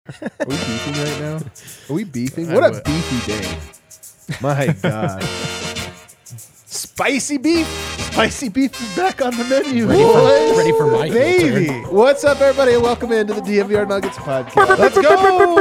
Are we beefing right now? Are we beefing? What a beefy day. My God. Spicy beef. Spicy beef is back on the menu. Ready for my Baby. turn. What's up, everybody? And welcome into the DMVR Nuggets podcast. Let's go!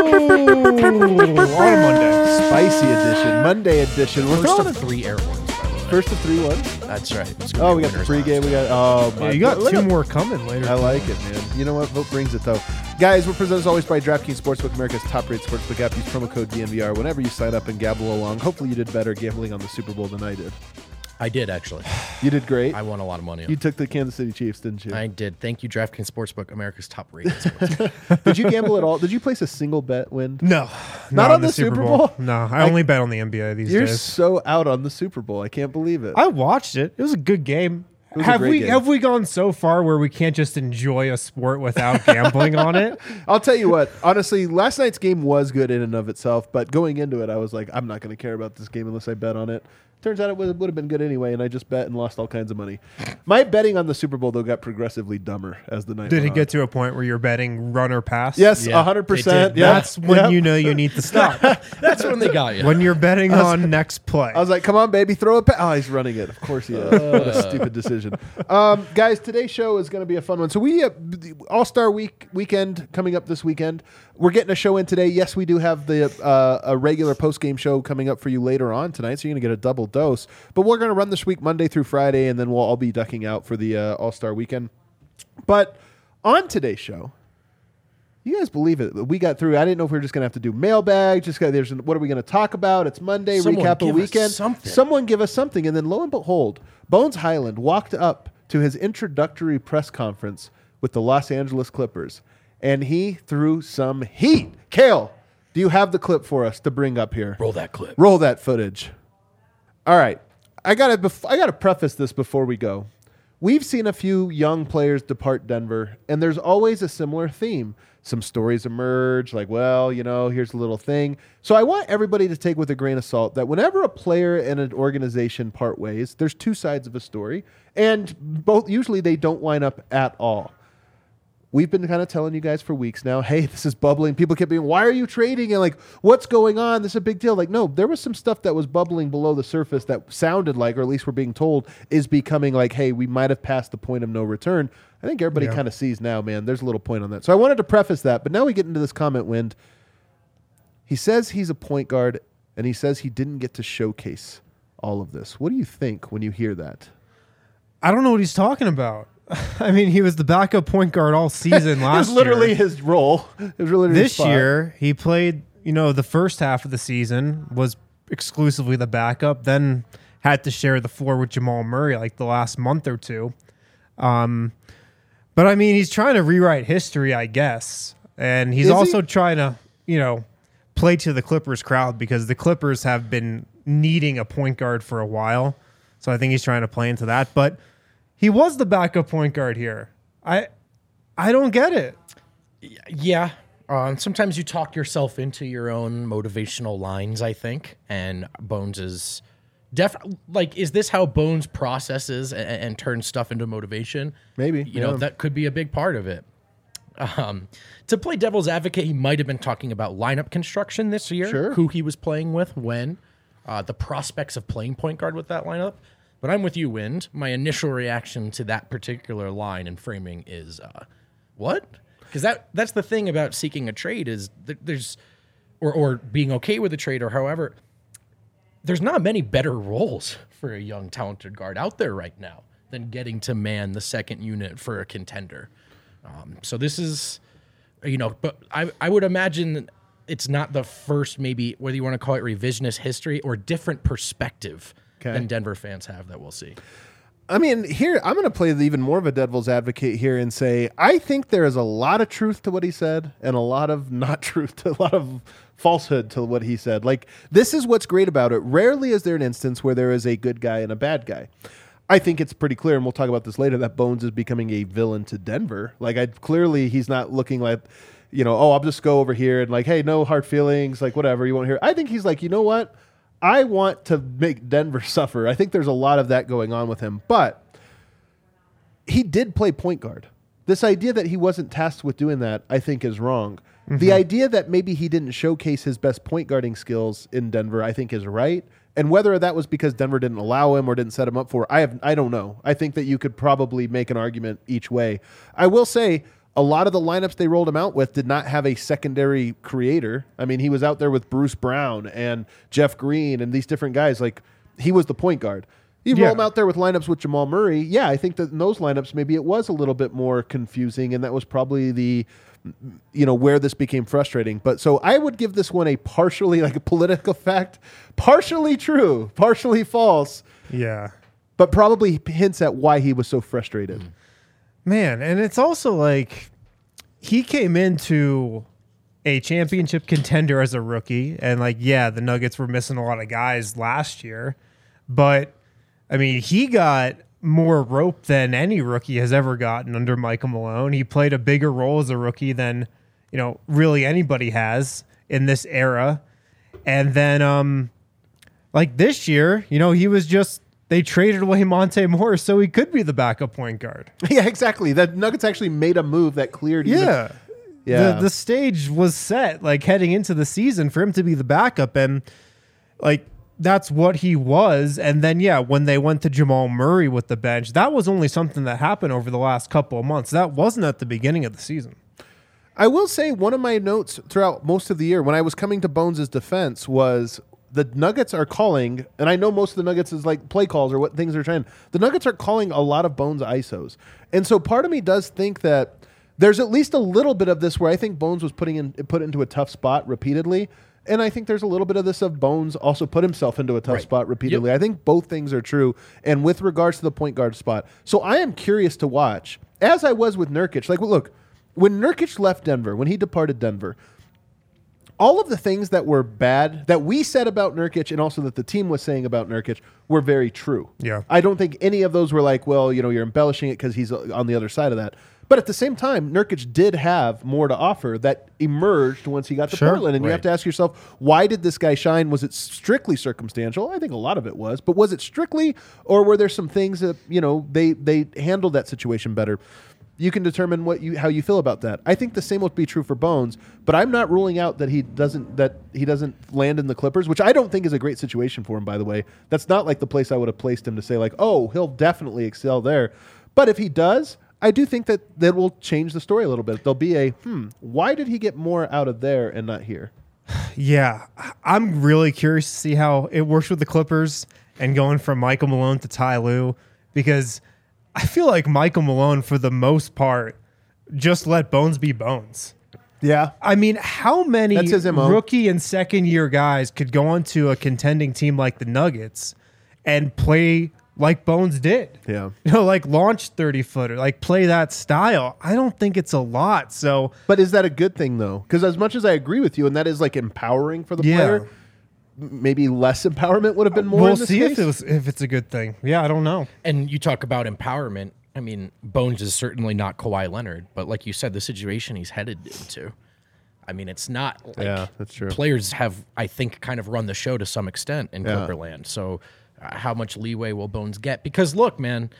On Monday. Spicy edition. Monday edition. We're First throwing of 3 air ones, by the way. first of 3 ones. That's right. It's Oh, gonna we be got the winners pregame. last. We got. Oh, my Yeah, you got God. Look two at- more coming later. I like it, man. You know what? Vote brings it, though. Guys, we're presented as always by DraftKings Sportsbook, America's top-rated sportsbook app. Use promo code DNVR whenever you sign up and gamble along. Hopefully you did better gambling on the Super Bowl than I did. I did, actually. You did great. I won a lot of money. You took the Kansas City Chiefs, didn't you? I did. Thank you, DraftKings Sportsbook, America's top-rated sportsbook. Did you gamble at all? Did you place a single bet win? No. Not on the Super Bowl? No, I only bet on the NBA these You're days. so out on the Super Bowl. I can't believe it. I watched it. It was a good game. was a great game. Have we gone so far where we can't just enjoy a sport without gambling on it? I'll tell you what. Honestly, last night's game was good in and of itself, but going into it, I was like, I'm not going to care about this game unless I bet on it. Turns out it would have been good anyway, and I just bet and lost all kinds of money. My betting on the Super Bowl, though, got progressively dumber as the night Did went it on. get to a point where you're betting run or pass? Yes, Yeah, 100%. it did. Yeah. That's when Yeah. you know you need to stop. That's when they got you. When you're betting on next play. I was like, come on, baby, throw a pass. Oh, he's running it. Of course he is. What a stupid decision. Guys, today's show is going to be a fun one. So we All-Star weekend coming up this weekend. We're getting a show in today. Yes, we do have the a regular post-game show coming up for you later on tonight, so you're going to get a double dose. But we're going to run this week Monday through Friday, and then we'll all be ducking out for the All-Star weekend. But on today's show, you guys believe it? We got through. I didn't know if we were just going to have to do mailbag. What are we going to talk about? It's Monday. Someone Recap give a us weekend. something. Someone give us something. And then lo and behold, Bones Highland walked up to his introductory press conference with the Los Angeles Clippers, and he threw some heat. Kale, do you have the clip for us to bring up here? Roll that clip. Roll that footage. All right. I gotta preface this before we go. We've seen a few young players depart Denver, and there's always a similar theme. Some stories emerge, like, well, here's a little thing. So I want everybody to take with a grain of salt that whenever a player and an organization part ways, there's two sides of a story, and usually they don't line up at all. We've been kind of telling you guys for weeks now, hey, this is bubbling. People kept being, why are you trading? And like, what's going on? This is a big deal. Like, no, there was some stuff that was bubbling below the surface that sounded like, or at least we're being told, is becoming like, hey, we might have passed the point of no return. I think everybody kind of sees now, man, there's a little point on that. So I wanted to preface that, but now we get into this comment wind. He says he's a point guard, and he says he didn't get to showcase all of this. What do you think when you hear that? I don't know what he's talking about. I mean, he was the backup point guard all season last year. It was literally his role. It was really his This spot. year, he played, the first half of the season was exclusively the backup, then had to share the floor with Jamal Murray like the last month or two. But I mean, he's trying to rewrite history, I guess. And he's also trying to, play to the Clippers crowd because the Clippers have been needing a point guard for a while. So I think he's trying to play into that. But he was the backup point guard here. I don't get it. Yeah. Sometimes you talk yourself into your own motivational lines, I think. And Bones is is this how Bones processes and turns stuff into motivation? Maybe. That could be a big part of it. To play devil's advocate, he might have been talking about lineup construction this year, Sure. who he was playing with, when, the prospects of playing point guard with that lineup. But I'm with you, Wind. My initial reaction to that particular line and framing is, what? Because that's the thing about seeking a trade is there's, or being okay with a trade or however, there's not many better roles for a young, talented guard out there right now than getting to man the second unit for a contender. So this is, but I would imagine it's not the first, maybe whether you want to call it revisionist history or different perspective than Denver fans have that we'll see. I mean, here, I'm going to play even more of a devil's advocate here and say, I think there is a lot of truth to what he said and a lot of not truth to a lot of falsehood to what he said. Like, this is what's great about it. Rarely is there an instance where there is a good guy and a bad guy. I think it's pretty clear, and we'll talk about this later, that Bones is becoming a villain to Denver. Like, clearly he's not looking like, I'll just go over here and like, hey, no hard feelings, like whatever you want to hear. I think he's like, you know what? I want to make Denver suffer. I think there's a lot of that going on with him. But he did play point guard. This idea that he wasn't tasked with doing that, I think, is wrong. The idea that maybe he didn't showcase his best point guarding skills in Denver, I think is right. And whether that was because Denver didn't allow him or didn't set him up for, I don't know. I think that you could probably make an argument each way. I will say a lot of the lineups they rolled him out with did not have a secondary creator. I mean, he was out there with Bruce Brown and Jeff Green and these different guys. Like, he was the point guard. You roll him out there with lineups with Jamal Murray. Yeah, I think that in those lineups, maybe it was a little bit more confusing, and that was probably the, where this became frustrating. But so I would give this one a partially, like a political fact, partially true, partially false. Yeah. But probably hints at why he was so frustrated. Man, and it's also like he came into a championship contender as a rookie, and like, yeah, the Nuggets were missing a lot of guys last year, but I mean, he got more rope than any rookie has ever gotten under Michael Malone. He played a bigger role as a rookie than, really anybody has in this era. And then, like this year, he was just, they traded away Monte Morris so he could be the backup point guard. Yeah, exactly. The Nuggets actually made a move that cleared. Yeah. The stage was set, like heading into the season for him to be the backup. And like, that's what he was. And then, when they went to Jamal Murray with the bench, that was only something that happened over the last couple of months. That wasn't at the beginning of the season. I will say one of my notes throughout most of the year when I was coming to Bones' defense was the Nuggets are calling, and I know most of the Nuggets is like play calls or what things they're trying. The Nuggets are calling a lot of Bones ISOs. And so part of me does think that there's at least a little bit of this where I think Bones was put into a tough spot repeatedly. And I think there's a little bit of this of Bones also put himself into a tough spot repeatedly. Yep. I think both things are true. And with regards to the point guard spot. So I am curious to watch, as I was with Nurkic. Like, look, when Nurkic left Denver, when he departed Denver, all of the things that were bad that we said about Nurkic and also that the team was saying about Nurkic were very true. Yeah. I don't think any of those were like, well, you're embellishing it because he's on the other side of that. But at the same time, Nurkic did have more to offer that emerged once he got to Portland. And you have to ask yourself, why did this guy shine? Was it strictly circumstantial? I think a lot of it was. But was it strictly, or were there some things that, they handled that situation better? You can determine how you feel about that. I think the same would be true for Bones, but I'm not ruling out that he doesn't land in the Clippers, which I don't think is a great situation for him, by the way. That's not like the place I would have placed him to say like, oh, he'll definitely excel there. But if he does, I do think that will change the story a little bit. There'll be why did he get more out of there and not here? Yeah, I'm really curious to see how it works with the Clippers and going from Michael Malone to Ty Lue, because I feel like Michael Malone, for the most part, just let Bones be Bones. Yeah. I mean, how many rookie and second-year guys could go onto a contending team like the Nuggets and play like Bones did? Yeah. Like launch 30-footer, like play that style. I don't think it's a lot. So, but is that a good thing, though? Because as much as I agree with you, and that is like empowering for the player, maybe less empowerment would have been more. We'll in this see case? if it's a good thing. Yeah, I don't know. And you talk about empowerment. I mean, Bones is certainly not Kawhi Leonard, but like you said, the situation he's headed into. I mean, it's not like that's true. Players have, I think, kind of run the show to some extent in Clipperland. So how much leeway will Bones get? Because look, man,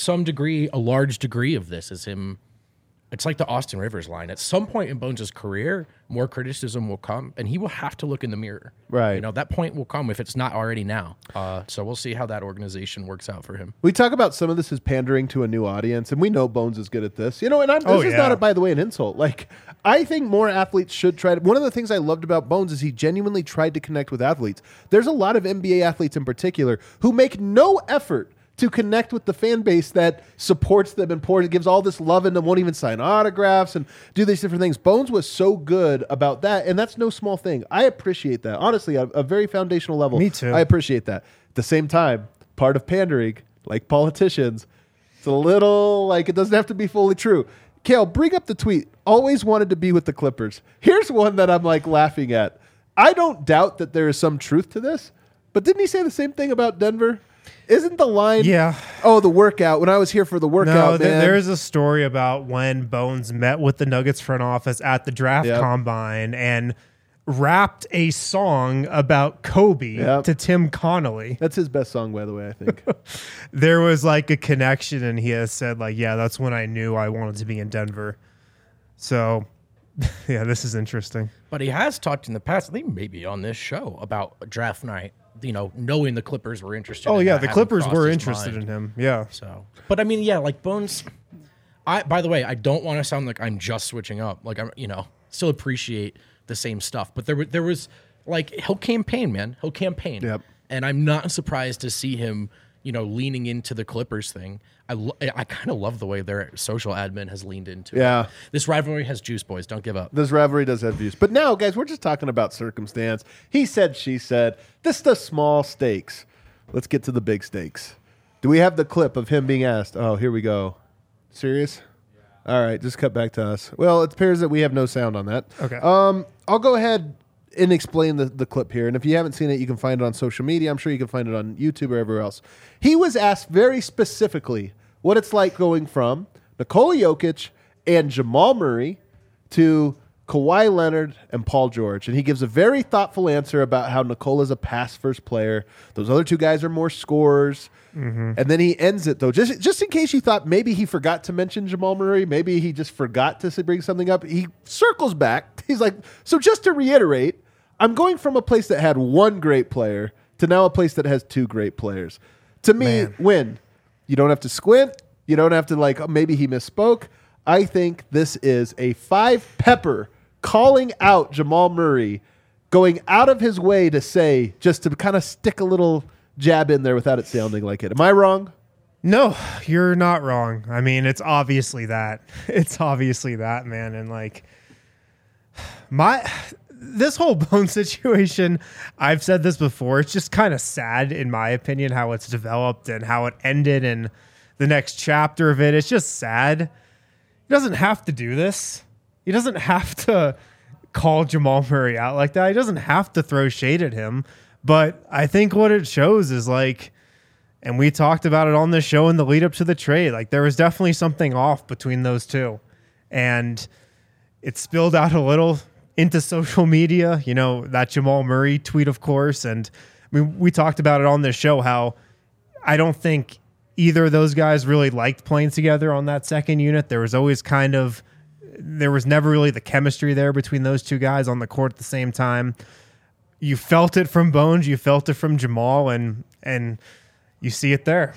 a large degree of this is him. It's like the Austin Rivers line. At some point in Bones' career, more criticism will come, and he will have to look in the mirror. Right. That point will come if it's not already now. So we'll see how that organization works out for him. We talk about some of this as pandering to a new audience, and we know Bones is good at this. And this is not, by the way, an insult. Like, I think more athletes should try to. One of the things I loved about Bones is he genuinely tried to connect with athletes. There's a lot of NBA athletes in particular who make no effort to connect with the fan base that supports them and gives all this love and won't even sign autographs and do these different things. Bones was so good about that, and that's no small thing. I appreciate that. Honestly, at a very foundational level. Me too. I appreciate that. At the same time, part of pandering, like politicians, it's a little like it doesn't have to be fully true. Kale, bring up the tweet. Always wanted to be with the Clippers. Here's one that I'm like laughing at. I don't doubt that there is some truth to this, but didn't he say the same thing about Denver? Isn't the line? Yeah. Oh, the workout. When I was here for the workout, man. There's a story about when Bones met with the Nuggets front office at the draft combine and rapped a song about Kobe to Tim Connolly. That's his best song, by the way, I think. There was like a connection, and he has said like, yeah, that's when I knew I wanted to be in Denver. So Yeah, this is interesting. But he has talked in the past, I think maybe on this show, about draft night, knowing the Clippers were interested Oh, in yeah, that, the having Clippers crossed were his interested mind. in him. Yeah. So, but I mean, yeah, like Bones. By the way, I don't want to sound like I'm just switching up. Like I'm, still appreciate the same stuff. But there was like he'll campaign, man. He'll campaign. Yep. And I'm not surprised to see him, leaning into the Clippers thing. I kind of love the way their social admin has leaned into Yeah. it. This rivalry has juice, boys. Don't give up. This rivalry does have views. But now, guys, we're just talking about circumstance. He said, she said. This is the small stakes. Let's get to the big stakes. Do we have the clip of him being asked? Oh, here we go. Serious? All right, just cut back to us. Well, it appears that we have no sound on that. Okay. I'll go ahead and explain the clip here. And if you haven't seen it, you can find it on social media. I'm sure you can find it on YouTube or everywhere else. He was asked very specifically what it's like going from Nikola Jokic and Jamal Murray to Kawhi Leonard and Paul George. And he gives a very thoughtful answer about how Nikola's a pass-first player. Those other two guys are more scorers. Mm-hmm. And then he ends it, though. Just in case you thought maybe he forgot to mention Jamal Murray, maybe he just forgot to bring something up, he circles back. He's like, so just to reiterate, I'm going from a place that had one great player to now a place that has two great players. To me, win. You don't have to squint. You don't have to maybe he misspoke. I think this is a five-pepper calling out Jamal Murray, going out of his way to say, just to kind of stick a little jab in there without it sounding like it. Am I wrong? No, you're not wrong. I mean, it's obviously that. It's obviously that, man. And this whole Bone situation, I've said this before, it's just kind of sad, in my opinion, how it's developed and how it ended and the next chapter of it. It's just sad. He doesn't have to do this. He doesn't have to call Jamal Murray out like that. He doesn't have to throw shade at him. But I think what it shows is and we talked about it on the show in the lead up to the trade, there was definitely something off between those two. And it spilled out a little into social media, that Jamal Murray tweet, of course. And we talked about it on this show, how I don't think either of those guys really liked playing together on that second unit. There was never really the chemistry there between those two guys on the court at the same time. You felt it from Bones, you felt it from Jamal, and you see it there.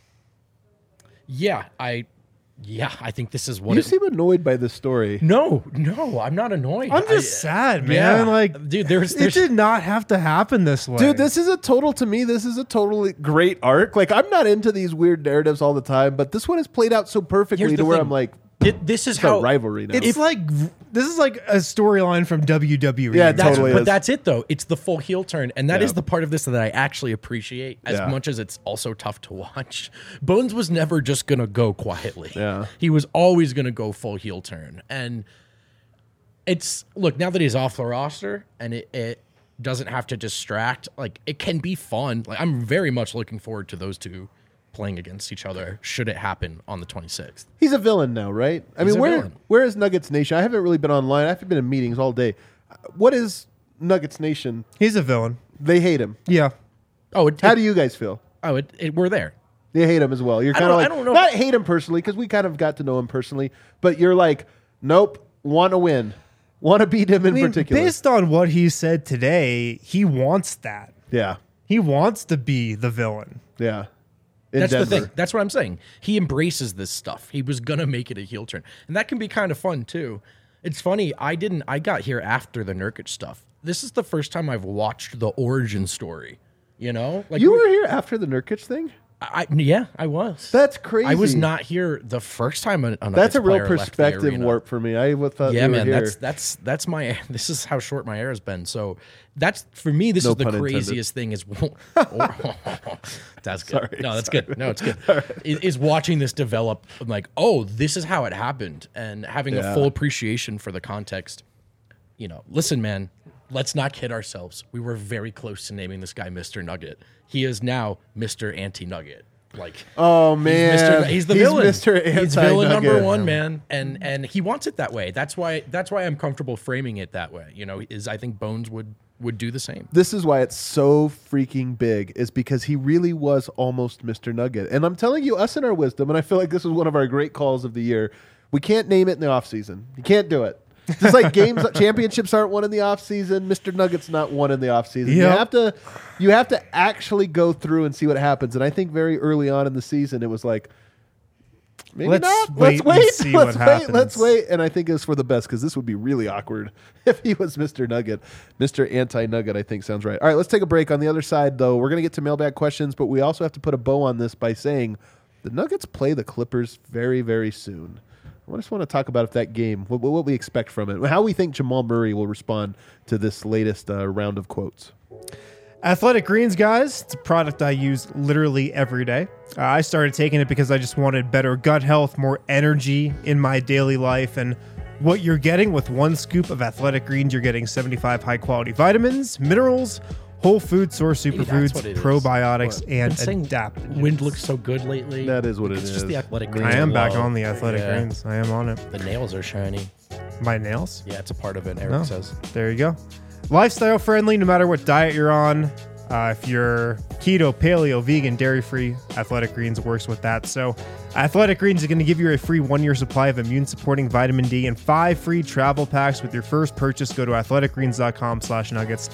Yeah, I think this is what You seem annoyed by this story. No, I'm not annoyed. I'm just sad, man. Yeah, dude, it did not have to happen this way. Dude, this is a totally great arc. I'm not into these weird narratives all the time, but this one has played out so perfectly Here's to the where thing. I'm like, this is it's how a rivalry now. It's this is like a storyline from WWE. Yeah, That's, totally but is. that's it, though. It's the full heel turn, and that Yeah. is the part of this that I actually appreciate as Yeah. much as it's also tough to watch. Bones was never just going to go quietly. Yeah. He was always going to go full heel turn. And look, now that he's off the roster and it doesn't have to distract, it can be fun. I'm very much looking forward to those two playing against each other should it happen on the 26th. He's a villain now, right? I He's mean, a villain. where is Nuggets Nation? I haven't really been online. I've been in meetings all day. What is Nuggets Nation? He's a villain. They hate him. Yeah. Oh, How do you guys feel? we're there. They hate him as well. You're kind of I don't know. not hate him personally, because we kind of got to know him personally, but you're like, nope, want to win. Want to beat him in particular. Based on what he said today, he wants that. Yeah. He wants to be the villain. Yeah. In That's Denver. the thing. That's what I'm saying. He embraces this stuff. He was gonna make it a heel turn, and that can be kind of fun too. It's funny. I got here after the Nurkic stuff. This is the first time I've watched the origin story. You were here after the Nurkic thing? Yeah, I was. That's crazy. I was not here the first time. That's a real perspective warp for me. I thought yeah, you were man. here. That's my. This is how short my hair has been. So that's for me. This No is the pun intended. craziest thing. Is that's good. Sorry, No, that's good. No, it's good. Is watching this develop. I'm like, oh, this is how it happened, and having a full appreciation for the context. Listen, man. Let's not kid ourselves. We were very close to naming this guy Mr. Nugget. He is now Mr. Anti-Nugget. Oh man, he's the villain. Mr. He's villain number Anti-Nugget. one, man, and he wants it that way. That's why I'm comfortable framing it that way. I think Bones would do the same. This is why it's so freaking big, is because he really was almost Mr. Nugget. And I'm telling you, us in our wisdom, and I feel like this is one of our great calls of the year, we can't name it in the offseason. You can't do it. Just like championships aren't won in the offseason, Mr. Nugget's not won in the offseason. Yep. You have to actually go through and see what happens. And I think very early on in the season, it was like, maybe Let's not. wait Let's and wait. see Let's what wait. happens. Let's wait. And I think it's for the best because this would be really awkward if he was Mr. Nugget. Mr. Anti-Nugget, I think sounds right. All right, let's take a break. On the other side, though, we're going to get to mailbag questions, but we also have to put a bow on this by saying the Nuggets play the Clippers very, very soon. I just want to talk about if that game, what we expect from it, how we think Jamal Murray will respond to this latest round of quotes. Athletic Greens, guys. It's a product I use literally every day. I started taking it because I just wanted better gut health, more energy in my daily life. And what you're getting with one scoop of Athletic Greens, you're getting 75 high-quality vitamins, minerals, whole food source superfoods, what it is. probiotics, and Saying adaptogens. Wind looks so good lately. That is what it It's is. just the athletic greens. I am back alone. on the Athletic Yeah. Greens. I am on it. The nails are shiny. My nails? Yeah, it's a part of it, Eric No. says. There you go. Lifestyle friendly, no matter what diet you're on. If you're keto, paleo, vegan, dairy-free, Athletic Greens works with that. So Athletic Greens is going to give you a free 1-year supply of immune-supporting vitamin D and 5 free travel packs with your first purchase. Go to athleticgreens.com/nuggets.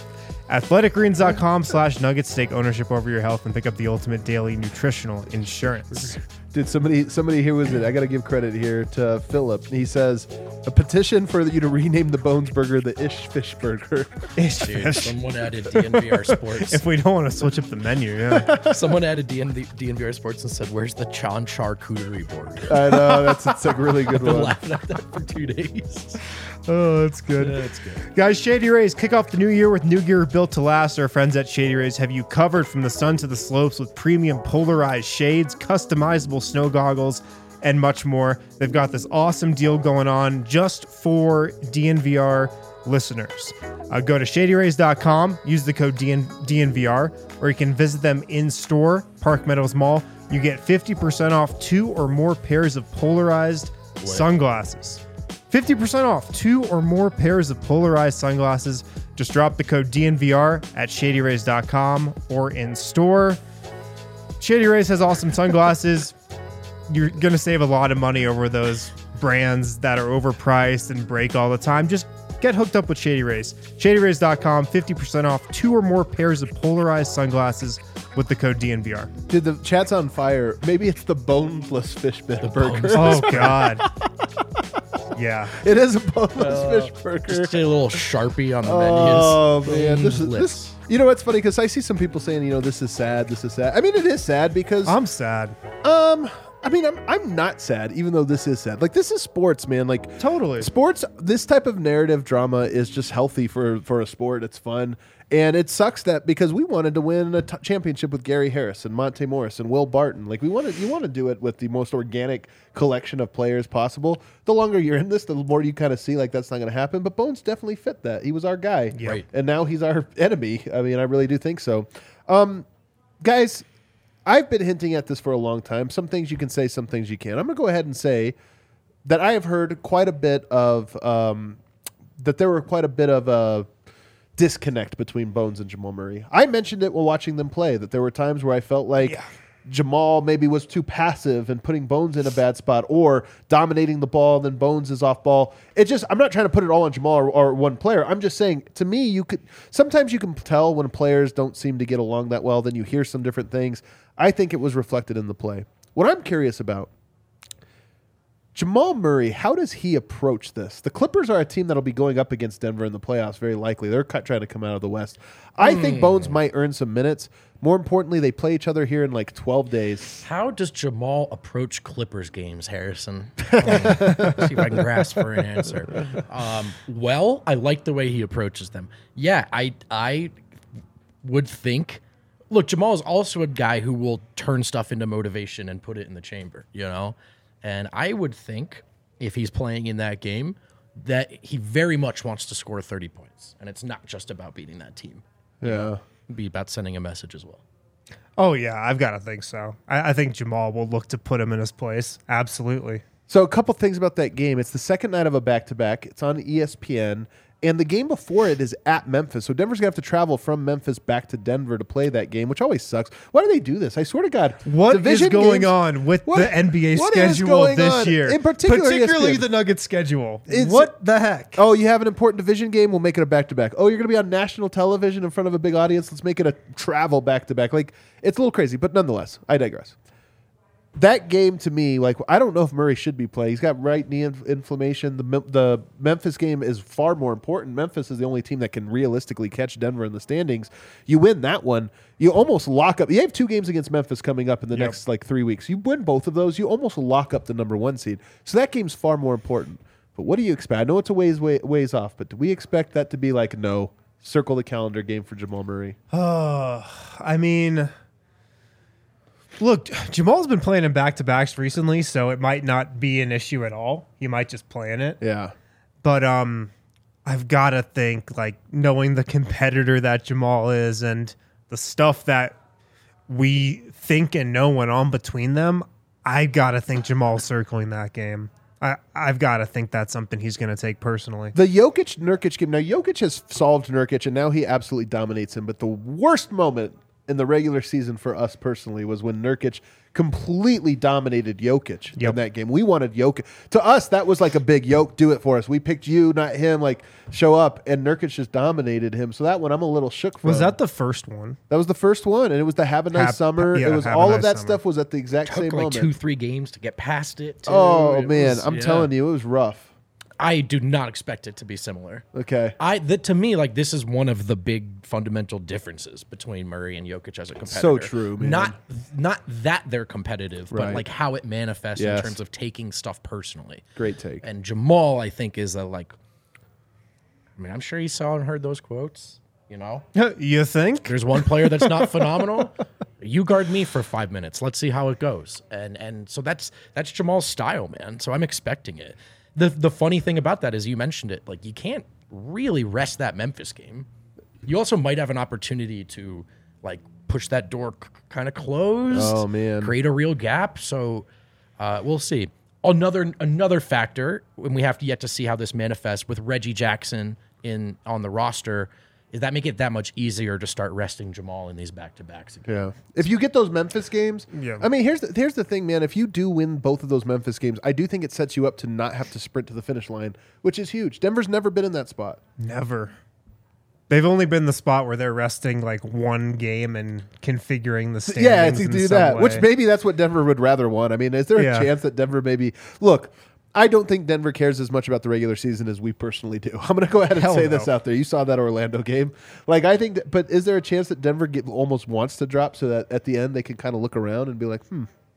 athleticgreens.com/nuggets. Take ownership over your health and pick up the ultimate daily nutritional insurance. Did somebody here was it? I got to give credit here to Philip. He says a petition for you to rename the Bones Burger the Ish Fish Burger. Dude, someone added DNVR Sports. If we don't want to switch up the menu, yeah. Someone added DNVR Sports and said, "Where's the Chan charcuterie board?" I know that's a really good I've been one. laughing at that for 2 days. Oh, that's good. That's good. Guys, Shady Rays kick off the new year with new gear built to last. Our friends at Shady Rays have you covered from the sun to the slopes with premium polarized shades, customizable snow goggles, and much more. They've got this awesome deal going on just for DNVR listeners. Go to shadyrays.com, use the code DNVR, or you can visit them in store, Park Meadows Mall. You get 50% off 2 or more pairs of polarized sunglasses. 50% off 2 or more pairs of polarized sunglasses. Just drop the code DNVR at shadyrays.com or in store. Shady Rays has awesome sunglasses. You're going to save a lot of money over those brands that are overpriced and break all the time. Just get hooked up with Shady Rays. Shadyrays.com, 50% off 2 or more pairs of polarized sunglasses with the code DNVR. Dude, the chat's on fire. Maybe it's the boneless fish burger. Oh, God. Yeah. It is a boneless fish burger. Just a little Sharpie on the Oh menus. man, this is Boneless. this. You know what's funny? Because I see some people saying, this is sad. This is sad. I mean, it is sad because I'm sad. I mean, I'm not sad, even though this is sad. Like, this is sports, man. Like, Totally. sports. This type of narrative drama is just healthy for a sport. It's fun, and it sucks that because we wanted to win a championship with Gary Harris and Monte Morris and Will Barton. Like, you want to do it with the most organic collection of players possible. The longer you're in this, the more you kind of see like that's not going to happen. But Bones definitely fit that. He was our guy, Yeah. Right. and now he's our enemy. I mean, I really do think so, guys. I've been hinting at this for a long time. Some things you can say, some things you can't. I'm going to go ahead and say that I have heard quite a bit of that there were quite a bit of a disconnect between Bones and Jamal Murray. I mentioned it while watching them play, that there were times where I felt like Jamal maybe was too passive and putting Bones in a bad spot, or dominating the ball and then Bones is off ball. I'm not trying to put it all on Jamal or one player. I'm just saying, to me, sometimes you can tell when players don't seem to get along that well. Then you hear some different things. I think it was reflected in the play. What I'm curious about, Jamal Murray, how does he approach this? The Clippers are a team that'll be going up against Denver in the playoffs, very likely. They're trying to come out of the West. I think Bones might earn some minutes. More importantly, they play each other here in like 12 days. How does Jamal approach Clippers games, Harrison? See if I can grasp for an answer. Well, I like the way he approaches them. Yeah, I would think. Look, Jamal is also a guy who will turn stuff into motivation and put it in the chamber, And I would think if he's playing in that game that he very much wants to score 30 points. And it's not just about beating that team. Yeah. It'd be about sending a message as well. Oh, yeah, I've got to think so. I think Jamal will look to put him in his place. Absolutely. So a couple things about that game. It's the second night of a back-to-back. It's on ESPN. And the game before it is at Memphis. So Denver's going to have to travel from Memphis back to Denver to play that game, which always sucks. Why do they do this? I swear to God. What division is going games- on with What- the NBA what is schedule going this on? year? In particular, particularly ESPN. the Nuggets schedule. It's- What the heck? Oh, you have an important division game? We'll make it a back-to-back. Oh, you're going to be on national television in front of a big audience? Let's make it a travel back-to-back. Like, it's a little crazy, but nonetheless, I digress. That game to me, like, I don't know if Murray should be playing. He's got right knee inflammation. The Memphis game is far more important. Memphis is the only team that can realistically catch Denver in the standings. You win that one, you almost lock up. You have 2 games against Memphis coming up in the next, 3 weeks. You win both of those, you almost lock up the number 1 seed. So that game's far more important. But what do you expect? I know it's a ways off, but do we expect that to be like, no, circle the calendar game for Jamal Murray? I mean, look, Jamal's been playing in back-to-backs recently, so it might not be an issue at all. He might just play in it. Yeah. But I've got to think, like, knowing the competitor that Jamal is and the stuff that we think and know went on between them, I got to think Jamal's circling that game. I've got to think that's something he's going to take personally. The Jokic-Nurkic game, now Jokic has solved Nurkic, and now he absolutely dominates him. But the worst moment in the regular season for us personally was when Nurkic completely dominated Jokic in that game. We wanted Jokic. To us, that was like a big yoke, do it for us. We picked you, not him, like show up, and Nurkic just dominated him. So that one I'm a little shook from. Was that the first one? That was the first one, and it was the Have a Nice Summer. It was all of that stuff was at the exact Took same like moment. 2-3 games to get past it. Too. Oh, It man. was- I'm telling you, it was rough. I do not expect it to be similar. Okay. To me, like, this is one of the big fundamental differences between Murray and Jokic as a competitor. So true, man. Not that they're competitive, Right. but like how it manifests Yes. in terms of taking stuff personally. Great take. And Jamal, I think, is a like. I mean, I'm sure he saw and heard those quotes. You know, You think? there's one player that's not phenomenal. You guard me for 5 minutes. Let's see how it goes. And so that's Jamal's style, man. So I'm expecting it. The funny thing about that is you mentioned it. Like, you can't really rest that Memphis game. You also might have an opportunity to like push that door kind of closed. Oh, man. Create a real gap. So we'll see. Another factor, and we have yet to see how this manifests with Reggie Jackson on the roster, is that make it that much easier to start resting Jamal in these back-to-backs again. Yeah. If you get those Memphis games, Yeah. I mean, here's the thing, man. If you do win both of those Memphis games, I do think it sets you up to not have to sprint to the finish line, which is huge. Denver's never been in that spot. Never. They've only been the spot where they're resting like one game and configuring the standings. Yeah, to in do some that, way. which maybe that's what Denver would rather want. I mean, is there Yeah. a chance that Denver maybe look? I don't think Denver cares as much about the regular season as we personally do. I'm going to go ahead and Hell say no. this out there. You saw that Orlando game. Like, I think, but is there a chance that Denver almost wants to drop so that at the end they can kind of look around and be like,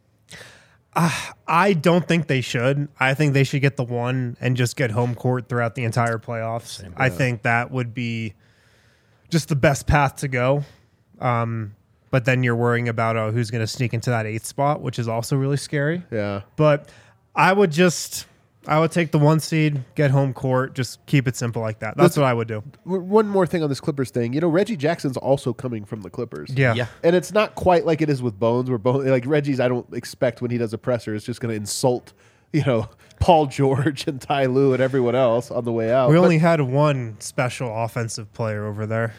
I don't think they should. I think they should get the one and just get home court throughout the entire playoffs. I think that would be just the best path to go. But then you're worrying about who's going to sneak into that 8th spot, which is also really scary. yeah. But I would take the 1 seed, get home court, just keep it simple like that. That's what I would do. One more thing on this Clippers thing. You know, Reggie Jackson's also coming from the Clippers. Yeah. Yeah. And it's not quite like it is with Bones, where Bones, like Reggie's, I don't expect when he does a presser, is just going to insult, Paul George and Ty Lue and everyone else on the way out. We But- only had one special offensive player over there.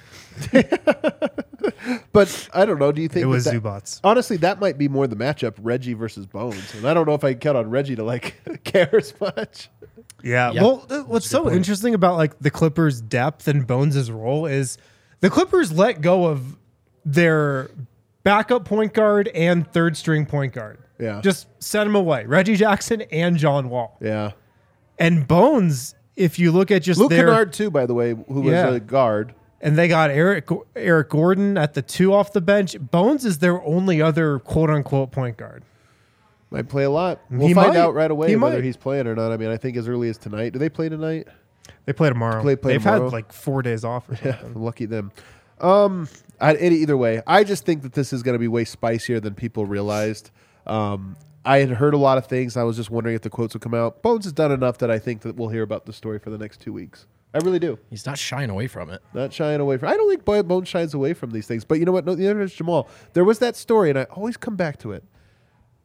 But I don't know. Do you think It was that, Zubats. honestly, that might be more the matchup, Reggie versus Bones. And I don't know if I can count on Reggie to like care as much. Yeah. Yeah. Well, what's so interesting about like the Clippers' depth and Bones' role is the Clippers let go of their backup point guard and third string point guard. Yeah. Just sent them away. Reggie Jackson and John Wall. Yeah. And Bones, if you look at just Luke their Kennard too, by the way, who was Yeah. a guard. and they got Eric Gordon at the 2 off the bench. Bones is their only other quote unquote point guard. Might play a lot. We'll He find might. out right away He whether might. he's playing or not. I mean, I think as early as tonight. Do they play tonight? They play tomorrow. Play They've tomorrow? had like 4 days off or something. Yeah, lucky them. Either way, I just think that this is going to be way spicier than people realized. I had heard a lot of things. I was just wondering if the quotes would come out. Bones has done enough that I think that we'll hear about the story for the next 2 weeks. I really do. He's not shying away from it. Not shying away from. I don't think Bones shies away from these things. But you know what? No, the other is Jamal. There was that story, and I always come back to it.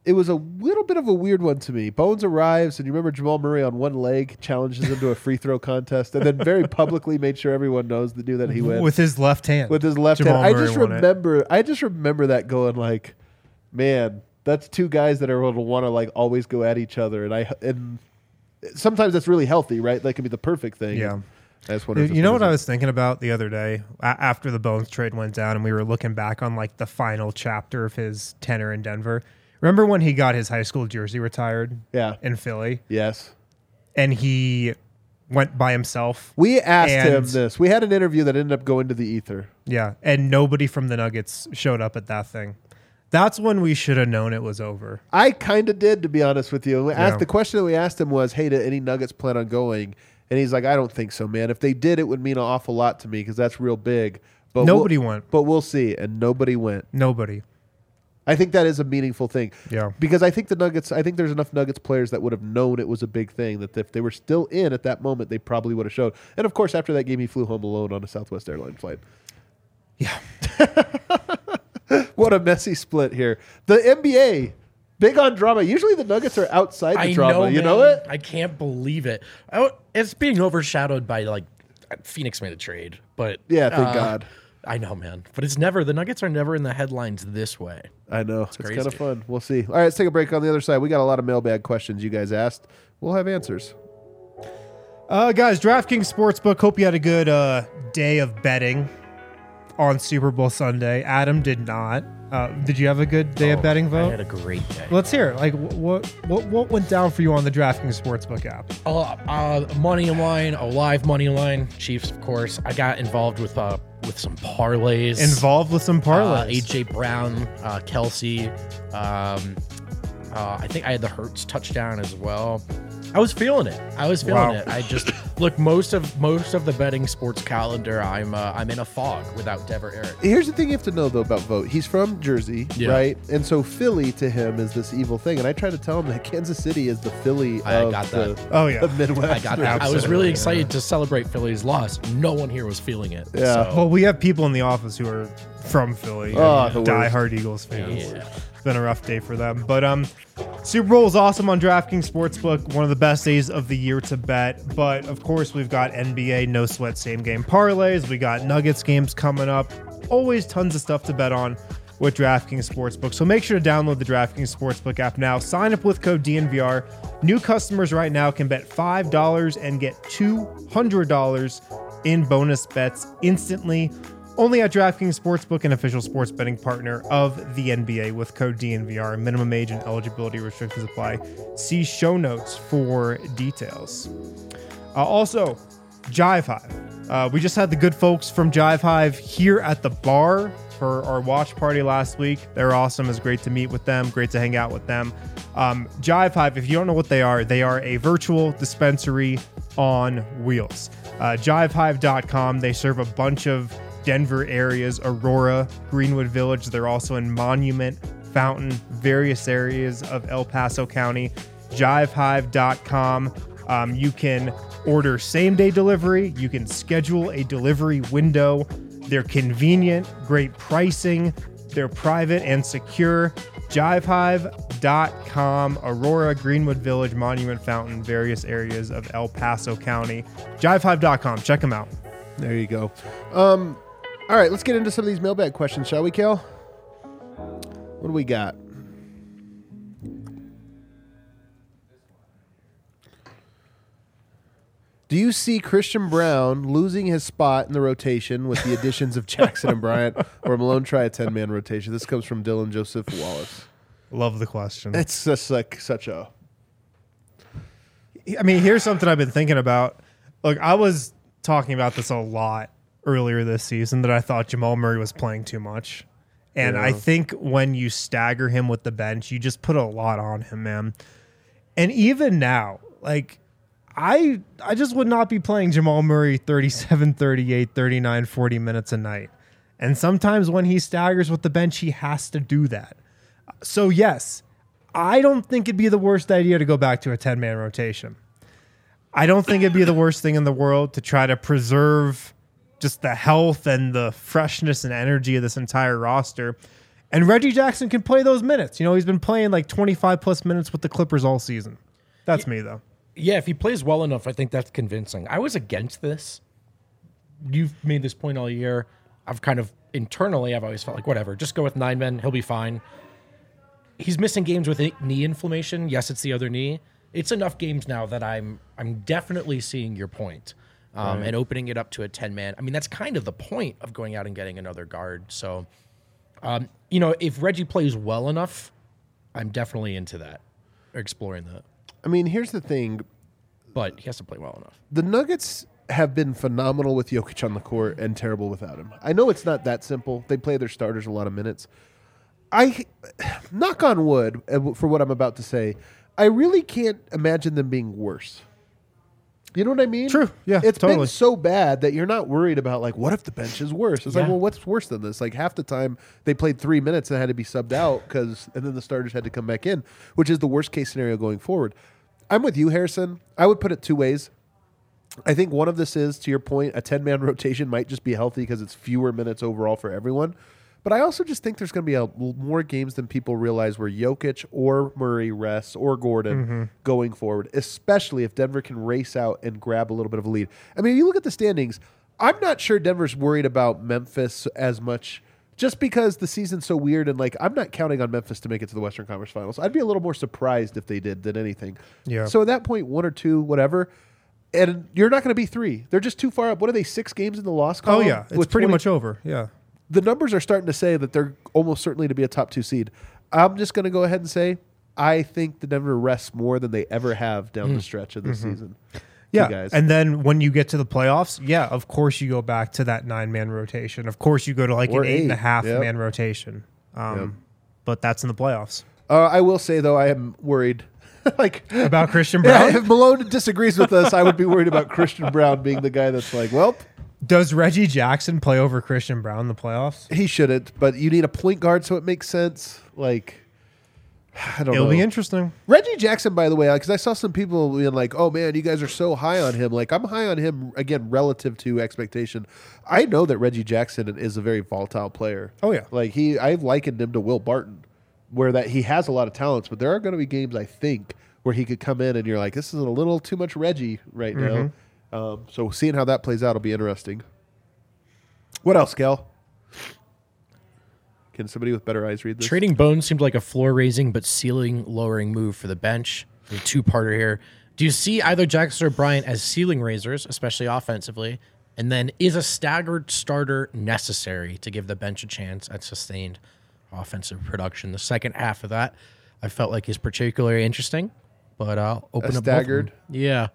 it was a little bit of a weird one to me. Bones arrives, and you remember Jamal Murray on one leg challenges him to a free throw contest, and then very publicly made sure everyone knows the dude that he wins with his left hand. With his left Jamal hand, Murray I just remember that going like, man, that's two guys that are going to want to like always go at each other, and sometimes that's really healthy, right? That can be the perfect thing. Yeah. I just wonder You know what I was thinking about the other day after the Bones trade went down, and we were looking back on like the final chapter of his tenure in Denver. Remember when he got his high school jersey retired? Yeah. In Philly, Yes. and he went by himself. We asked him this. We had an interview that ended up going to the ether. Yeah, and nobody from the Nuggets showed up at that thing. That's when we should have known it was over. I kind of did, to be honest with you. Yeah. The question that we asked him was, hey, did any Nuggets plan on going? And he's like, I don't think so, man. If they did, it would mean an awful lot to me because that's real big. But Nobody went. But we'll see. And nobody went. Nobody. I think that is a meaningful thing. Yeah. Because I think there's enough Nuggets players that would have known it was a big thing, that if they were still in at that moment, they probably would have showed. And of course, after that game, he flew home alone on a Southwest Airlines flight. Yeah. What a messy split here. The NBA, big on drama. Usually the Nuggets are outside the drama. You know it? I can't believe it. It's being overshadowed by like Phoenix made a trade, but Yeah, thank God. I know, man. But the Nuggets are never in the headlines this way. I know. It's crazy. kind of fun. We'll see. All right, let's take a break. On the other side, we got a lot of mailbag questions you guys asked. We'll have answers. Guys, DraftKings Sportsbook, hope you had a good day of betting on Super Bowl Sunday. Adam did not. Did you have a good day of betting, I Vote? had a great day. Let's hear it. Like, what went down for you on the DraftKings Sportsbook app? Money line, a live money line. Chiefs, of course. I got involved with some parlays. Involved with some parlays. AJ Brown, Kelsey. I think I had the Hurts touchdown as well. I was feeling it. Wow. I just look most of the betting sports calendar. I'm in a fog without Dever Eric. Here's the thing you have to know, though, about Vote. He's from Jersey, Yeah. right? And so Philly to him is this evil thing. And I try to tell him that Kansas City is the Philly I of got the, that. Oh, yeah. the Midwest. I got that. I was really excited to celebrate Philly's loss. No one here was feeling it. Yeah. So, Well, we have people in the office who are from Philly. Oh, and the worst. diehard Eagles fans. Yeah. It's been a rough day for them. But Super Bowl is awesome on DraftKings Sportsbook. One of the best days of the year to bet. But, of course, we've got NBA no sweat same game parlays. We got Nuggets games coming up. Always tons of stuff to bet on with DraftKings Sportsbook. So make sure to download the DraftKings Sportsbook app now. Sign up with code DNVR. New customers right now can bet $5 and get $200 in bonus bets instantly. Only at DraftKings Sportsbook, an official sports betting partner of the NBA, with code DNVR. Minimum age and eligibility restrictions apply. See show notes for details. Also, Jive Hive. We just had the good folks from Jive Hive here at the bar for our watch party last week. They're awesome. It's great to meet with them. Great to hang out with them. Jive Hive, if you don't know what they are a virtual dispensary on wheels. JiveHive.com. They serve a bunch of Denver areas, Aurora, Greenwood Village. They're also in Monument, Fountain, various areas of El Paso County. JiveHive.com. You can order same-day delivery. You can schedule a delivery window. They're convenient, great pricing. They're private and secure. JiveHive.com. Aurora, Greenwood Village, Monument, Fountain, various areas of El Paso County. JiveHive.com. Check them out. There you go. All right, let's get into some of these mailbag questions, shall we, Kel? What do we got? Do you see Christian Brown losing his spot in the rotation with the additions of Jackson and Bryant, or Malone try a 10-man rotation? This comes from Dylan Joseph Wallace. Love the question. It's just like such a... I mean, here's something I've been thinking about. Look, I was talking about this a lot earlier this season, that I thought Jamal Murray was playing too much. And I think when you stagger him with the bench, you just put a lot on him, man. And even now, like, I just would not be playing Jamal Murray 37, 38, 39, 40 minutes a night. And sometimes when he staggers with the bench, he has to do that. So, yes, I don't think it'd be the worst idea to go back to a 10-man rotation. I don't think it'd be the worst thing in the world to try to preserve just the health and the freshness and energy of this entire roster. And Reggie Jackson can play those minutes. You know, he's been playing like 25 plus minutes with the Clippers all season. That's me, though. Yeah, if he plays well enough, I think that's convincing. I was against this. You've made this point all year. I've kind of internally, I've always felt like, whatever, just go with 9 men. He'll be fine. He's missing games with knee inflammation. Yes, it's the other knee. It's enough games now that I'm definitely seeing your point. And opening it up to a 10-man. I mean, that's kind of the point of going out and getting another guard. So, you know, if Reggie plays well enough, I'm definitely into that, exploring that. I mean, here's the thing. But he has to play well enough. The Nuggets have been phenomenal with Jokic on the court and terrible without him. I know it's not that simple. They play their starters a lot of minutes. I knock on wood for what I'm about to say. I really can't imagine them being worse. You know what I mean? True. Yeah, It's totally. been so bad that you're not worried about, like, what if the bench is worse? It's like, Yeah. well, what's worse than this? Like, half the time they played 3 minutes and had to be subbed out and then the starters had to come back in, which is the worst case scenario going forward. I'm with you, Harrison. I would put it 2 ways. I think one of this is, to your point, a 10-man rotation might just be healthy because it's fewer minutes overall for everyone. But I also just think there's going to be more games than people realize where Jokic or Murray rests or Gordon going forward, especially if Denver can race out and grab a little bit of a lead. I mean, if you look at the standings, I'm not sure Denver's worried about Memphis as much just because the season's so weird. And, like, I'm not counting on Memphis to make it to the Western Conference Finals. I'd be a little more surprised if they did than anything. Yeah. So at that point, 1 or 2, whatever. And you're not going to be 3. They're just too far up. What are they, 6 games in the loss Oh, column? yeah. It's with pretty 20 much over. Yeah. The numbers are starting to say that they're almost certainly to be a top 2 seed. I'm just going to go ahead and say I think the Denver rests more than they ever have down the stretch of this season. Yeah. Guys. And then when you get to the playoffs, yeah, of course you go back to that 9-man rotation. Of course you go to like Or an 8, 8.5 yep. man rotation. But that's in the playoffs. I will say, though, I am worried. like About Christian yeah, Brown? if Malone disagrees with us, I would be worried about Christian Brown being the guy that's like, well, Does Reggie Jackson play over Christian Brown in the playoffs? he shouldn't. But you need a point guard so it makes sense. Like, I don't know. It'll be interesting. Reggie Jackson, by the way, because I saw some people being like, oh, man, you guys are so high on him. Like, I'm high on him, again, relative to expectation. I know that Reggie Jackson is a very volatile player. Oh, yeah. Like, I've likened him to Will Barton, where that he has a lot of talents, but there are going to be games, I think, where he could come in and you're like, this is a little too much Reggie right now. So seeing how that plays out will be interesting. What else, Cal? Can somebody with better eyes read this? Trading Bones seemed like a floor-raising but ceiling-lowering move for the bench. A two-parter here. Do you see either Jackson or Bryant as ceiling raisers, especially offensively? And then is a staggered starter necessary to give the bench a chance at sustained offensive production? The second half of that I felt like is particularly interesting, but I'll open up both of them. staggered? Yeah.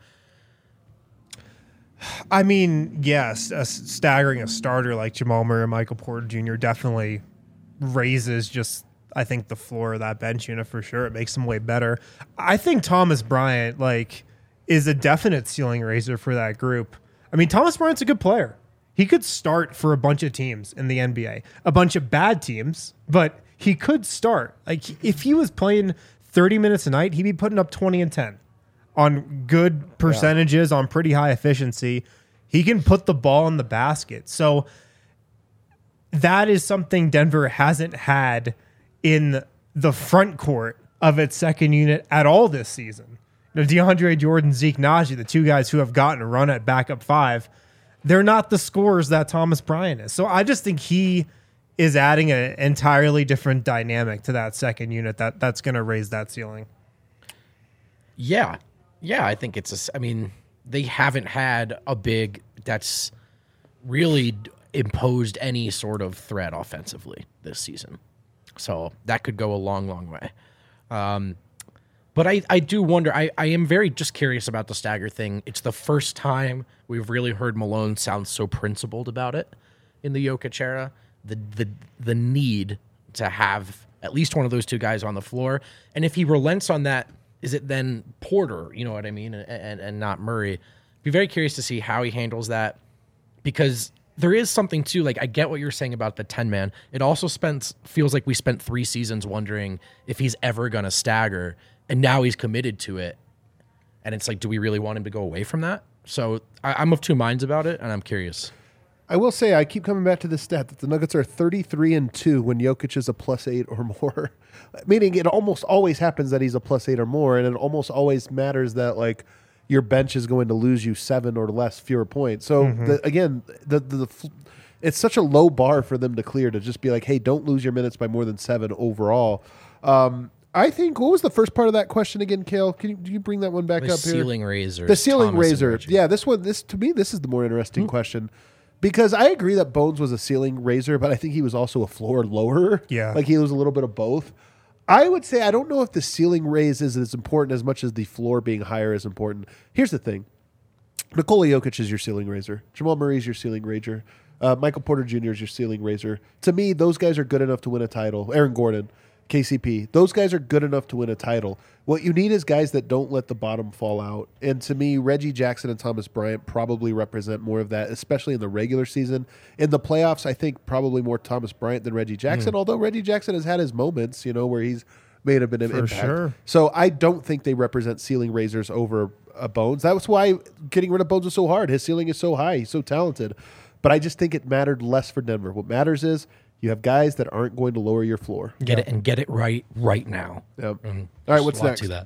I mean, yes, staggering a starter like Jamal Murray and Michael Porter Jr. definitely raises just, I think, the floor of that bench unit for sure. It makes them way better. I think Thomas Bryant, like, is a definite ceiling raiser for that group. I mean, Thomas Bryant's a good player. He could start for a bunch of teams in the NBA, a bunch of bad teams, but he could start. Like, if he was playing 30 minutes a night, he'd be putting up 20 and 10. On good percentages, on pretty high efficiency. He can put the ball in the basket. So that is something Denver hasn't had in the front court of its second unit at all this season. You know, DeAndre Jordan, Zeke Naji, the two guys who have gotten a run at backup 5, they're not the scorers that Thomas Bryant is. So I just think he is adding an entirely different dynamic to that second unit that's going to raise that ceiling. Yeah. Yeah, I think I mean, they haven't had a big that's really imposed any sort of threat offensively this season. So that could go a long, long way. But I do wonder, I am very just curious about the stagger thing. It's the first time we've really heard Malone sound so principled about it in the Jokic era. The need to have at least one of those two guys on the floor. And if he relents on that, is it then Porter, you know what I mean, and not Murray? Be very curious to see how he handles that, because there is something too, like I get what you're saying about the 10-man. It also feels like we spent 3 seasons wondering if he's ever going to stagger, and now he's committed to it. And it's like, do we really want him to go away from that? So I'm of two minds about it, and I'm curious. I will say I keep coming back to this stat that the Nuggets are 33-2 when Jokic is a +8 or more. Meaning it almost always happens that he's a +8 or more, and it almost always matters that like your bench is going to lose you 7 or less fewer points. So it's such a low bar for them to clear to just be like, hey, don't lose your minutes by more than 7 overall. I think, what was the first part of that question again, Kale? Do you bring that one back up here? Ceiling raiser. The ceiling raiser. Yeah, to me, this is the more interesting question. Because I agree that Bones was a ceiling raiser, but I think he was also a floor lowerer. Yeah. Like he was a little bit of both. I would say I don't know if the ceiling raise is as important as much as the floor being higher is important. Here's the thing. Nikola Jokic is your ceiling raiser. Jamal Murray is your ceiling raiser. Michael Porter Jr. is your ceiling raiser. To me, those guys are good enough to win a title. Aaron Gordon, KCP, those guys are good enough to win a title. What you need is guys that don't let the bottom fall out. And to me, Reggie Jackson and Thomas Bryant probably represent more of that, especially in the regular season. In the playoffs, I think probably more Thomas Bryant than Reggie Jackson, although Reggie Jackson has had his moments, where he's made a bit of impact. Sure. So I don't think they represent ceiling raisers over Bones. That was why getting rid of Bones was so hard. His ceiling is so high. He's so talented. But I just think it mattered less for Denver. What matters is you have guys that aren't going to lower your floor. Get it right now. Yep. All right, what's next? To that.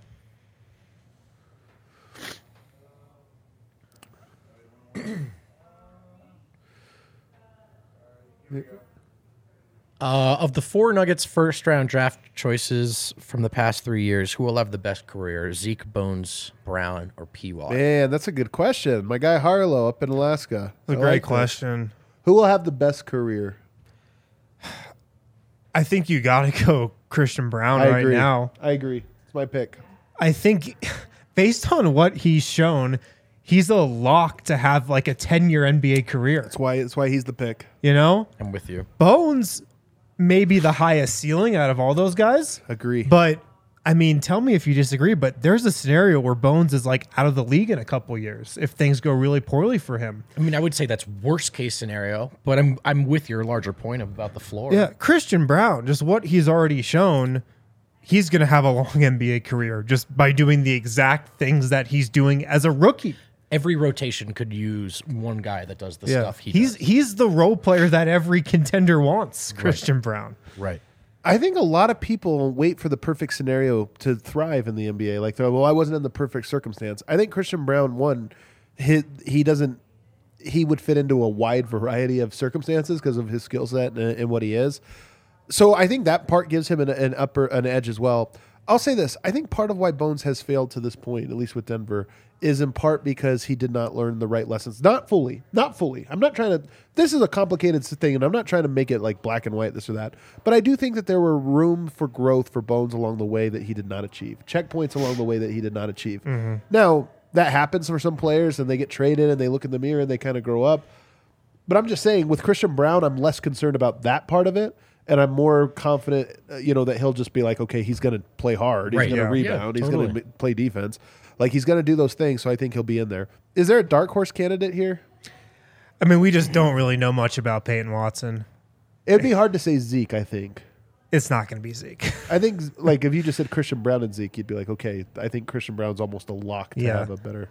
Of the 4 Nuggets first-round draft choices from the past 3 years, who will have the best career? Zeke, Bones, Brown, or P.Y.? Man, that's a good question. My guy Harlow up in Alaska. That's a great question. Who will have the best career? I think you got to go Christian Brown now. I agree. It's my pick. I think based on what he's shown, he's a lock to have like a 10-year NBA career. That's why he's the pick. I'm with you. Bones may be the highest ceiling out of all those guys. Agree. But I mean, tell me if you disagree, but there's a scenario where Bones is like out of the league in a couple years if things go really poorly for him. I mean, I would say that's worst case scenario, but I'm with your larger point about the floor. Yeah, Christian Brown, just what he's already shown, he's going to have a long NBA career just by doing the exact things that he's doing as a rookie. Every rotation could use one guy that does the stuff does. He's the role player that every contender wants, Christian Brown. Right. I think a lot of people wait for the perfect scenario to thrive in the NBA. Like, I wasn't in the perfect circumstance. I think Christian Brown, he would fit into a wide variety of circumstances because of his skill set and what he is. So I think that part gives him an edge as well. I'll say this. I think part of why Bones has failed to this point, at least with Denver, is in part because he did not learn the right lessons. Not fully. I'm not trying to... This is a complicated thing, and I'm not trying to make it like black and white, this or that. But I do think that there were room for growth for Bones along the way that he did not achieve. Checkpoints along the way that he did not achieve. Mm-hmm. Now, that happens for some players, and they get traded, and they look in the mirror, and they kind of grow up. But I'm just saying, with Christian Brown, I'm less concerned about that part of it. And I'm more confident, that he'll just be like, okay, he's going to play hard. He's going to rebound. He's going to play defense. Like, he's going to do those things, so I think he'll be in there. Is there a dark horse candidate here? I mean, we just don't really know much about Peyton Watson. It'd be hard to say Zeke, I think. It's not going to be Zeke. I think, like, if you just said Christian Brown and Zeke, you'd be like, okay, I think Christian Brown's almost a lock to have a better...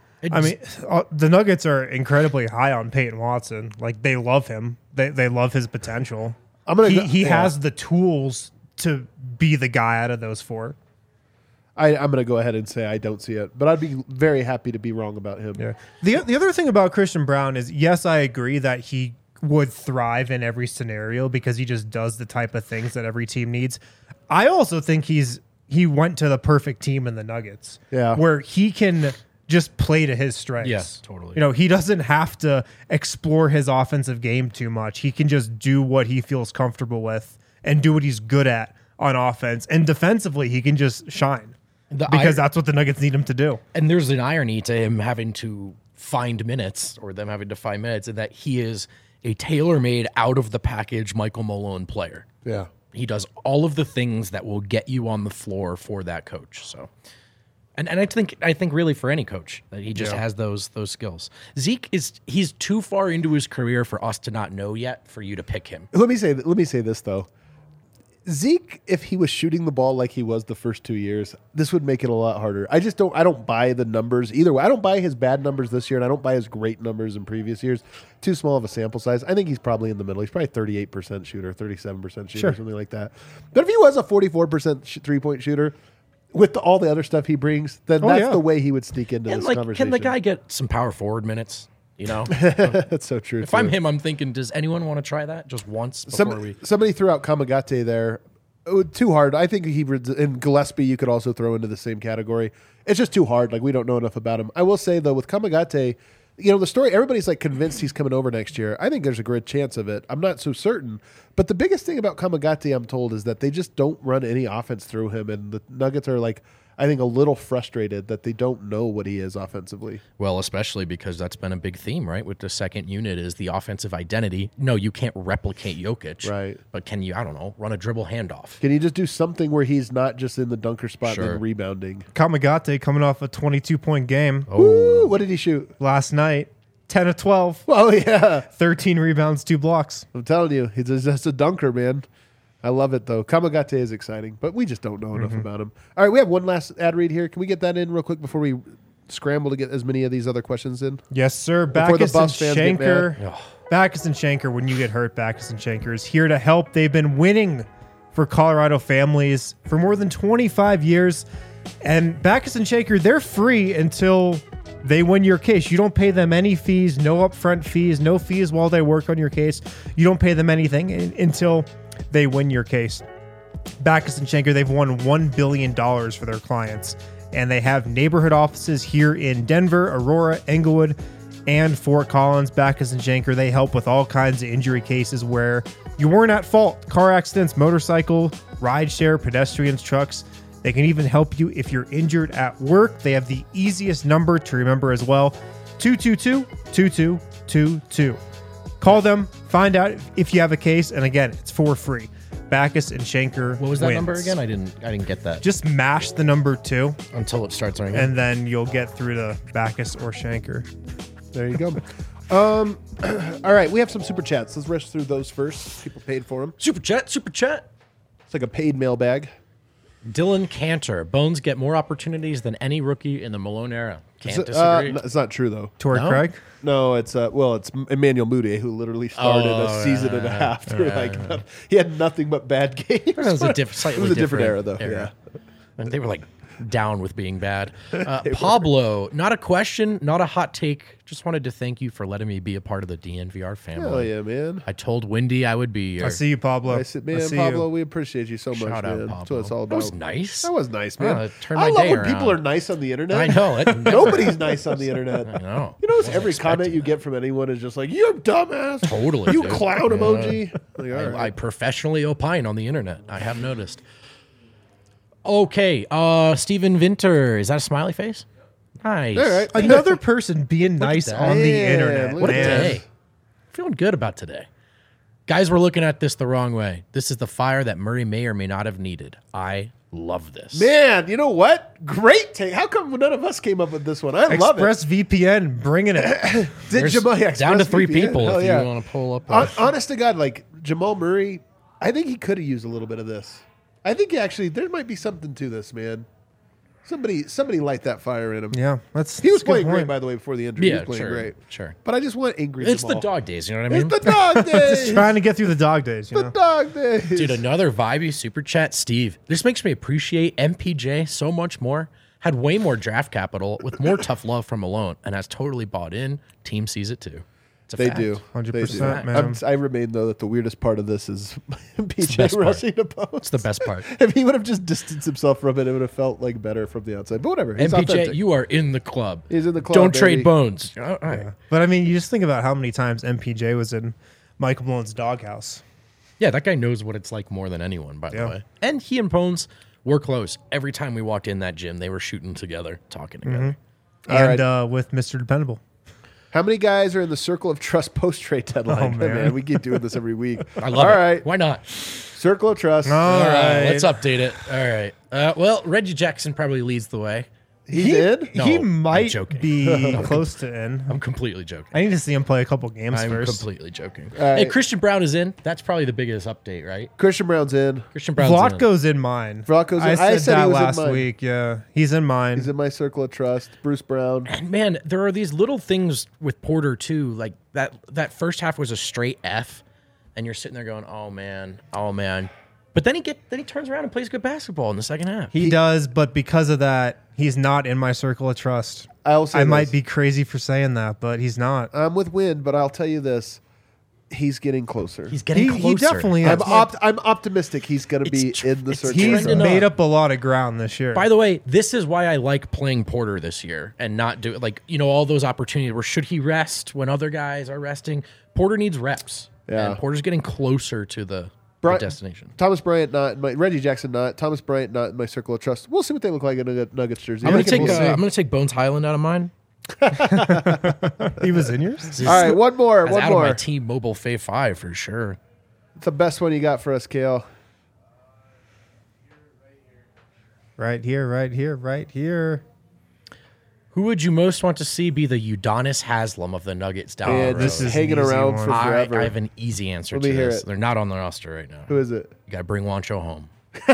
The Nuggets are incredibly high on Peyton Watson. Like, they love him. They love his potential. He has the tools to be the guy out of those 4. I'm going to go ahead and say I don't see it, but I'd be very happy to be wrong about him. Yeah. The other thing about Christian Brown is, yes, I agree that he would thrive in every scenario because he just does the type of things that every team needs. I also think he went to the perfect team in the Nuggets, where he can just play to his strengths. Yes, totally. He doesn't have to explore his offensive game too much. He can just do what he feels comfortable with and do what he's good at on offense. And defensively, he can just shine because that's what the Nuggets need him to do. And there's an irony to him having to find minutes, or them having to find minutes, in that he is a tailor-made, out-of-the-package Michael Malone player. Yeah. He does all of the things that will get you on the floor for that coach. So... And I think really for any coach that he just has those skills. Zeke he's too far into his career for us to not know yet for you to pick him. Let me say this though. Zeke, if he was shooting the ball like he was the first 2 years, this would make it a lot harder. I don't buy the numbers either way. I don't buy his bad numbers this year, and I don't buy his great numbers in previous years. Too small of a sample size. I think he's probably in the middle. He's probably 38% shooter, 37% shooter, something like that. But if he was a 44% three-point shooter with all the other stuff he brings, then that's the way he would sneak into this conversation. Can the guy get some power forward minutes? You know, that's so true. If I'm him, I'm thinking, does anyone want to try that just once before Somebody threw out Kamagate there. Too hard. I think and Gillespie you could also throw into the same category. It's just too hard. Like, we don't know enough about him. I will say, though, with Kamagate, the story, everybody's like convinced he's coming over next year. I think there's a great chance of it. I'm not so certain. But the biggest thing about Kamagate, I'm told, is that they just don't run any offense through him. And the Nuggets are like, I think, a little frustrated that they don't know what he is offensively. Well, especially because that's been a big theme, right? With the second unit is the offensive identity. No, you can't replicate Jokic. Right. But can you, I don't know, run a dribble handoff? Can you just do something where he's not just in the dunker spot and rebounding? Kamagate coming off a 22-point game. Ooh, what did he shoot? Last night, 10 of 12. Oh, yeah. 13 rebounds, 2 blocks. I'm telling you, he's just a dunker, man. I love it, though. Kamagate is exciting, but we just don't know enough about him. All right, we have one last ad read here. Can we get that in real quick before we scramble to get as many of these other questions in? Yes, sir. Before Backus the and Buffs fans get Shanker. mad. Backus and Shanker, when you get hurt, Backus and Shanker is here to help. They've been winning for Colorado families for more than 25 years. And Backus and Shanker, they're free until they win your case. You don't pay them any fees, no upfront fees, no fees while they work on your case. You don't pay them anything until they win your case. Backus and Shanker, they've won $1 billion for their clients, and they have neighborhood offices here in Denver, Aurora, Englewood, and Fort Collins. Backus and Shanker, they help with all kinds of injury cases where you weren't at fault. Car accidents, motorcycle, rideshare, pedestrians, trucks. They can even help you if you're injured at work. They have the easiest number to remember as well, 222-2222. Call them, find out if you have a case, and again, it's for free. Backus and Shanker. What was that wins. number again? I didn't get that. Just mash the number 2 until it starts ringing, and then you'll get through to Backus or Shanker. There you go. All right, we have some super chats. Let's rush through those first. People paid for them. Super chat. It's like a paid mailbag. Dylan Cantor. Bones get more opportunities than any rookie in the Malone era. Can't disagree. It's not true, though. Torrey Craig? No, it's Emmanuel Moody, who literally started a season and a half through he had nothing but bad games. It was a different era, though. Yeah. And they were like down with being bad. Pablo, not a question, not a hot take. Just wanted to thank you for letting me be a part of the DNVR family. Hell yeah, man. I told Wendy I would be here. I see you, Pablo. Pablo, we appreciate you so much, Shout out, man. Pablo. That's what it's all about. That was nice. That was nice, man. Turned I my love day when around. people are nice on the internet. I know it. Nobody's nice on the internet. I know. You notice every comment you get from anyone is just like, "You dumbass." Totally. You dude. clown emoji. Like, all right. I professionally opine on the internet. I have noticed. Okay, Steven Vinter. Is that a smiley face? Nice. All right. Another person being nice that. on the Yeah, internet. look What a Man. day. Feeling good about today. Guys, we're looking at this the wrong way. This is the fire that Murray may or may not have needed. I love this. Man, you know what? Great take. How come none of us came up with this one? I love it. ExpressVPN, bringing it. Did Jamal, Down to 3 ExpressVPN? people Hell if yeah. you want to pull up. Honest to God, like Jamal Murray, I think he could have used a little bit of this. I think there might be something to this, man. Somebody light that fire in him. Yeah, He was that's a good playing great, point. by the way, before the injury. He Yeah, was playing great. sure. But I just want angry It's Jamal. the dog days, you know what I mean? It's the dog days. Just trying to get through the dog days, you the know? dog days. Dude, another vibey super chat, Steve. This makes me appreciate MPJ so much more. Had way more draft capital with more tough love from Malone and has totally bought in. Team sees it too. It's a They fact. do. 100%, They do. man. I remain, though, that the weirdest part of this is the PJ best part. rushing to post. It's the best part. If he would have just distanced himself from it, it would have felt like better from the outside. But whatever. He's MPJ, authentic. you are in the club. He's in the club, Don't baby. trade bones. All right. But I mean, you just think about how many times MPJ was in Michael Malone's doghouse. Yeah, that guy knows what it's like more than anyone, by the Yeah. way. And he and Bones were close. Every time we walked in that gym, they were shooting together, talking together. All And right. with Mr. Dependable. How many guys are in the circle of trust post trade deadline? Oh, man. We keep doing this every week. I love All it. right. Why not? Circle of trust. All right. Let's update it. All right. Well, Reggie Jackson probably leads the way. He's in? No, he I'm might joking. be close to in. I'm completely joking. I need to see him play a couple games I'm first. completely joking. right. Hey, Christian Brown is in. That's probably the biggest update, right? Christian Brown's in. Christian Brown's in. Vlatko's in mine. Vlatko's in. I I said said he that was in last mine. week. Yeah, he's in mine. He's in my circle of trust. Bruce Brown. And man, there are these little things with Porter too. Like that first half was a straight F, and you're sitting there going, "Oh man, oh man." But then he turns around and plays good basketball in the second half. He does, but because of that, he's not in my circle of trust. I might be crazy for saying that, but he's not. I'm with Wind, but I'll tell you this: he's getting closer. He's getting closer. He definitely is. I'm optimistic he's going to be in the circle. He's trending made up. up a lot of ground this year. By the way, this is why I like playing Porter this year and not do like all those opportunities where should he rest when other guys are resting. Porter needs reps. Yeah. And Porter's getting closer to the destination. Thomas Bryant not in my Reggie Jackson not Thomas Bryant not in my circle of trust. We'll see what they look like in a Nuggets jersey. I'm I gonna think take we'll I'm gonna take Bones Highland out of mine. He was in yours? All right, one more. That's One out of my more. T-Mobile Fave 5 for sure. It's the best one you got for us, Kale. Right here, right here, right here. Who would you most want to see be the Udonis Haslam of the Nuggets down And the road? this is an hanging easy around one. for forever. I have an easy answer Let to me hear this. it. They're not on the roster right now. Who is it? You got to bring Wancho home.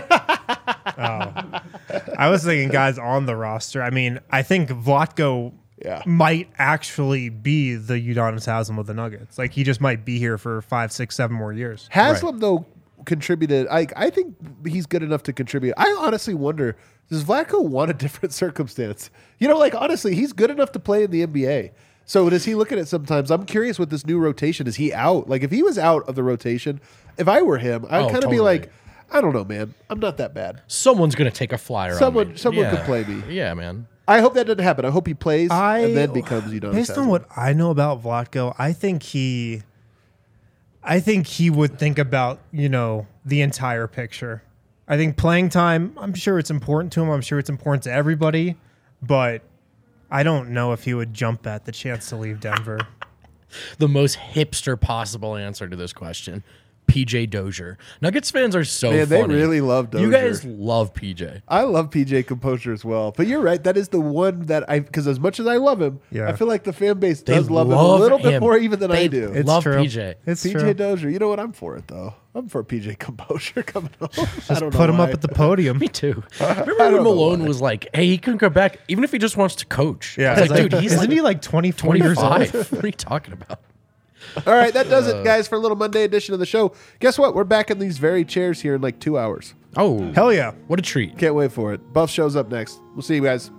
I was thinking guys on the roster. I mean, I think Vlatko Yeah. might actually be the Udonis Haslam of the Nuggets. Like, he just might be here for 5, 6, 7 more years. Haslam though contributed. I think he's good enough to contribute. I honestly wonder, does Vlatko want a different circumstance? Honestly, he's good enough to play in the NBA. So does he look at it sometimes? I'm curious with this new rotation. Is he out? Like if he was out of the rotation, if I were him, I'd kind of be totally. like, I don't know, man. I'm not that bad. Someone's going to take a flyer on Someone me. could play me. Yeah, man. I hope that doesn't happen. I hope he plays and then becomes Udonis Based on Haslam. what I know about Vlatko, I think he would think about, the entire picture. I think playing time, I'm sure it's important to him. I'm sure it's important to everybody, but I don't know if he would jump at the chance to leave Denver. The most hipster possible answer to this question. PJ Dozier. Nuggets fans are so Man, they funny. really love You Dozier. guys love PJ. I love PJ Composure as well. But you're right. That is the one that because as much as I love him, Yeah. I feel like the fan base They does love him a love little bit him. more even than I They do. It's love true. PJ. It's PJ true. Dozier. You know what? I'm for it, though. I'm for PJ Composure coming home. Just put him up at the podium. Me too. Remember when know Malone was like, hey, he can come back even if he just wants to coach. Yeah, I was like, dude, he's isn't like he like 24 years old? 25. What are you talking about? All right, that does it, guys, for a little Monday edition of the show. Guess what? We're back in these very chairs here in like 2 hours. Oh, Hell yeah. what a treat. Can't wait for it. Buff shows up next. We'll see you guys.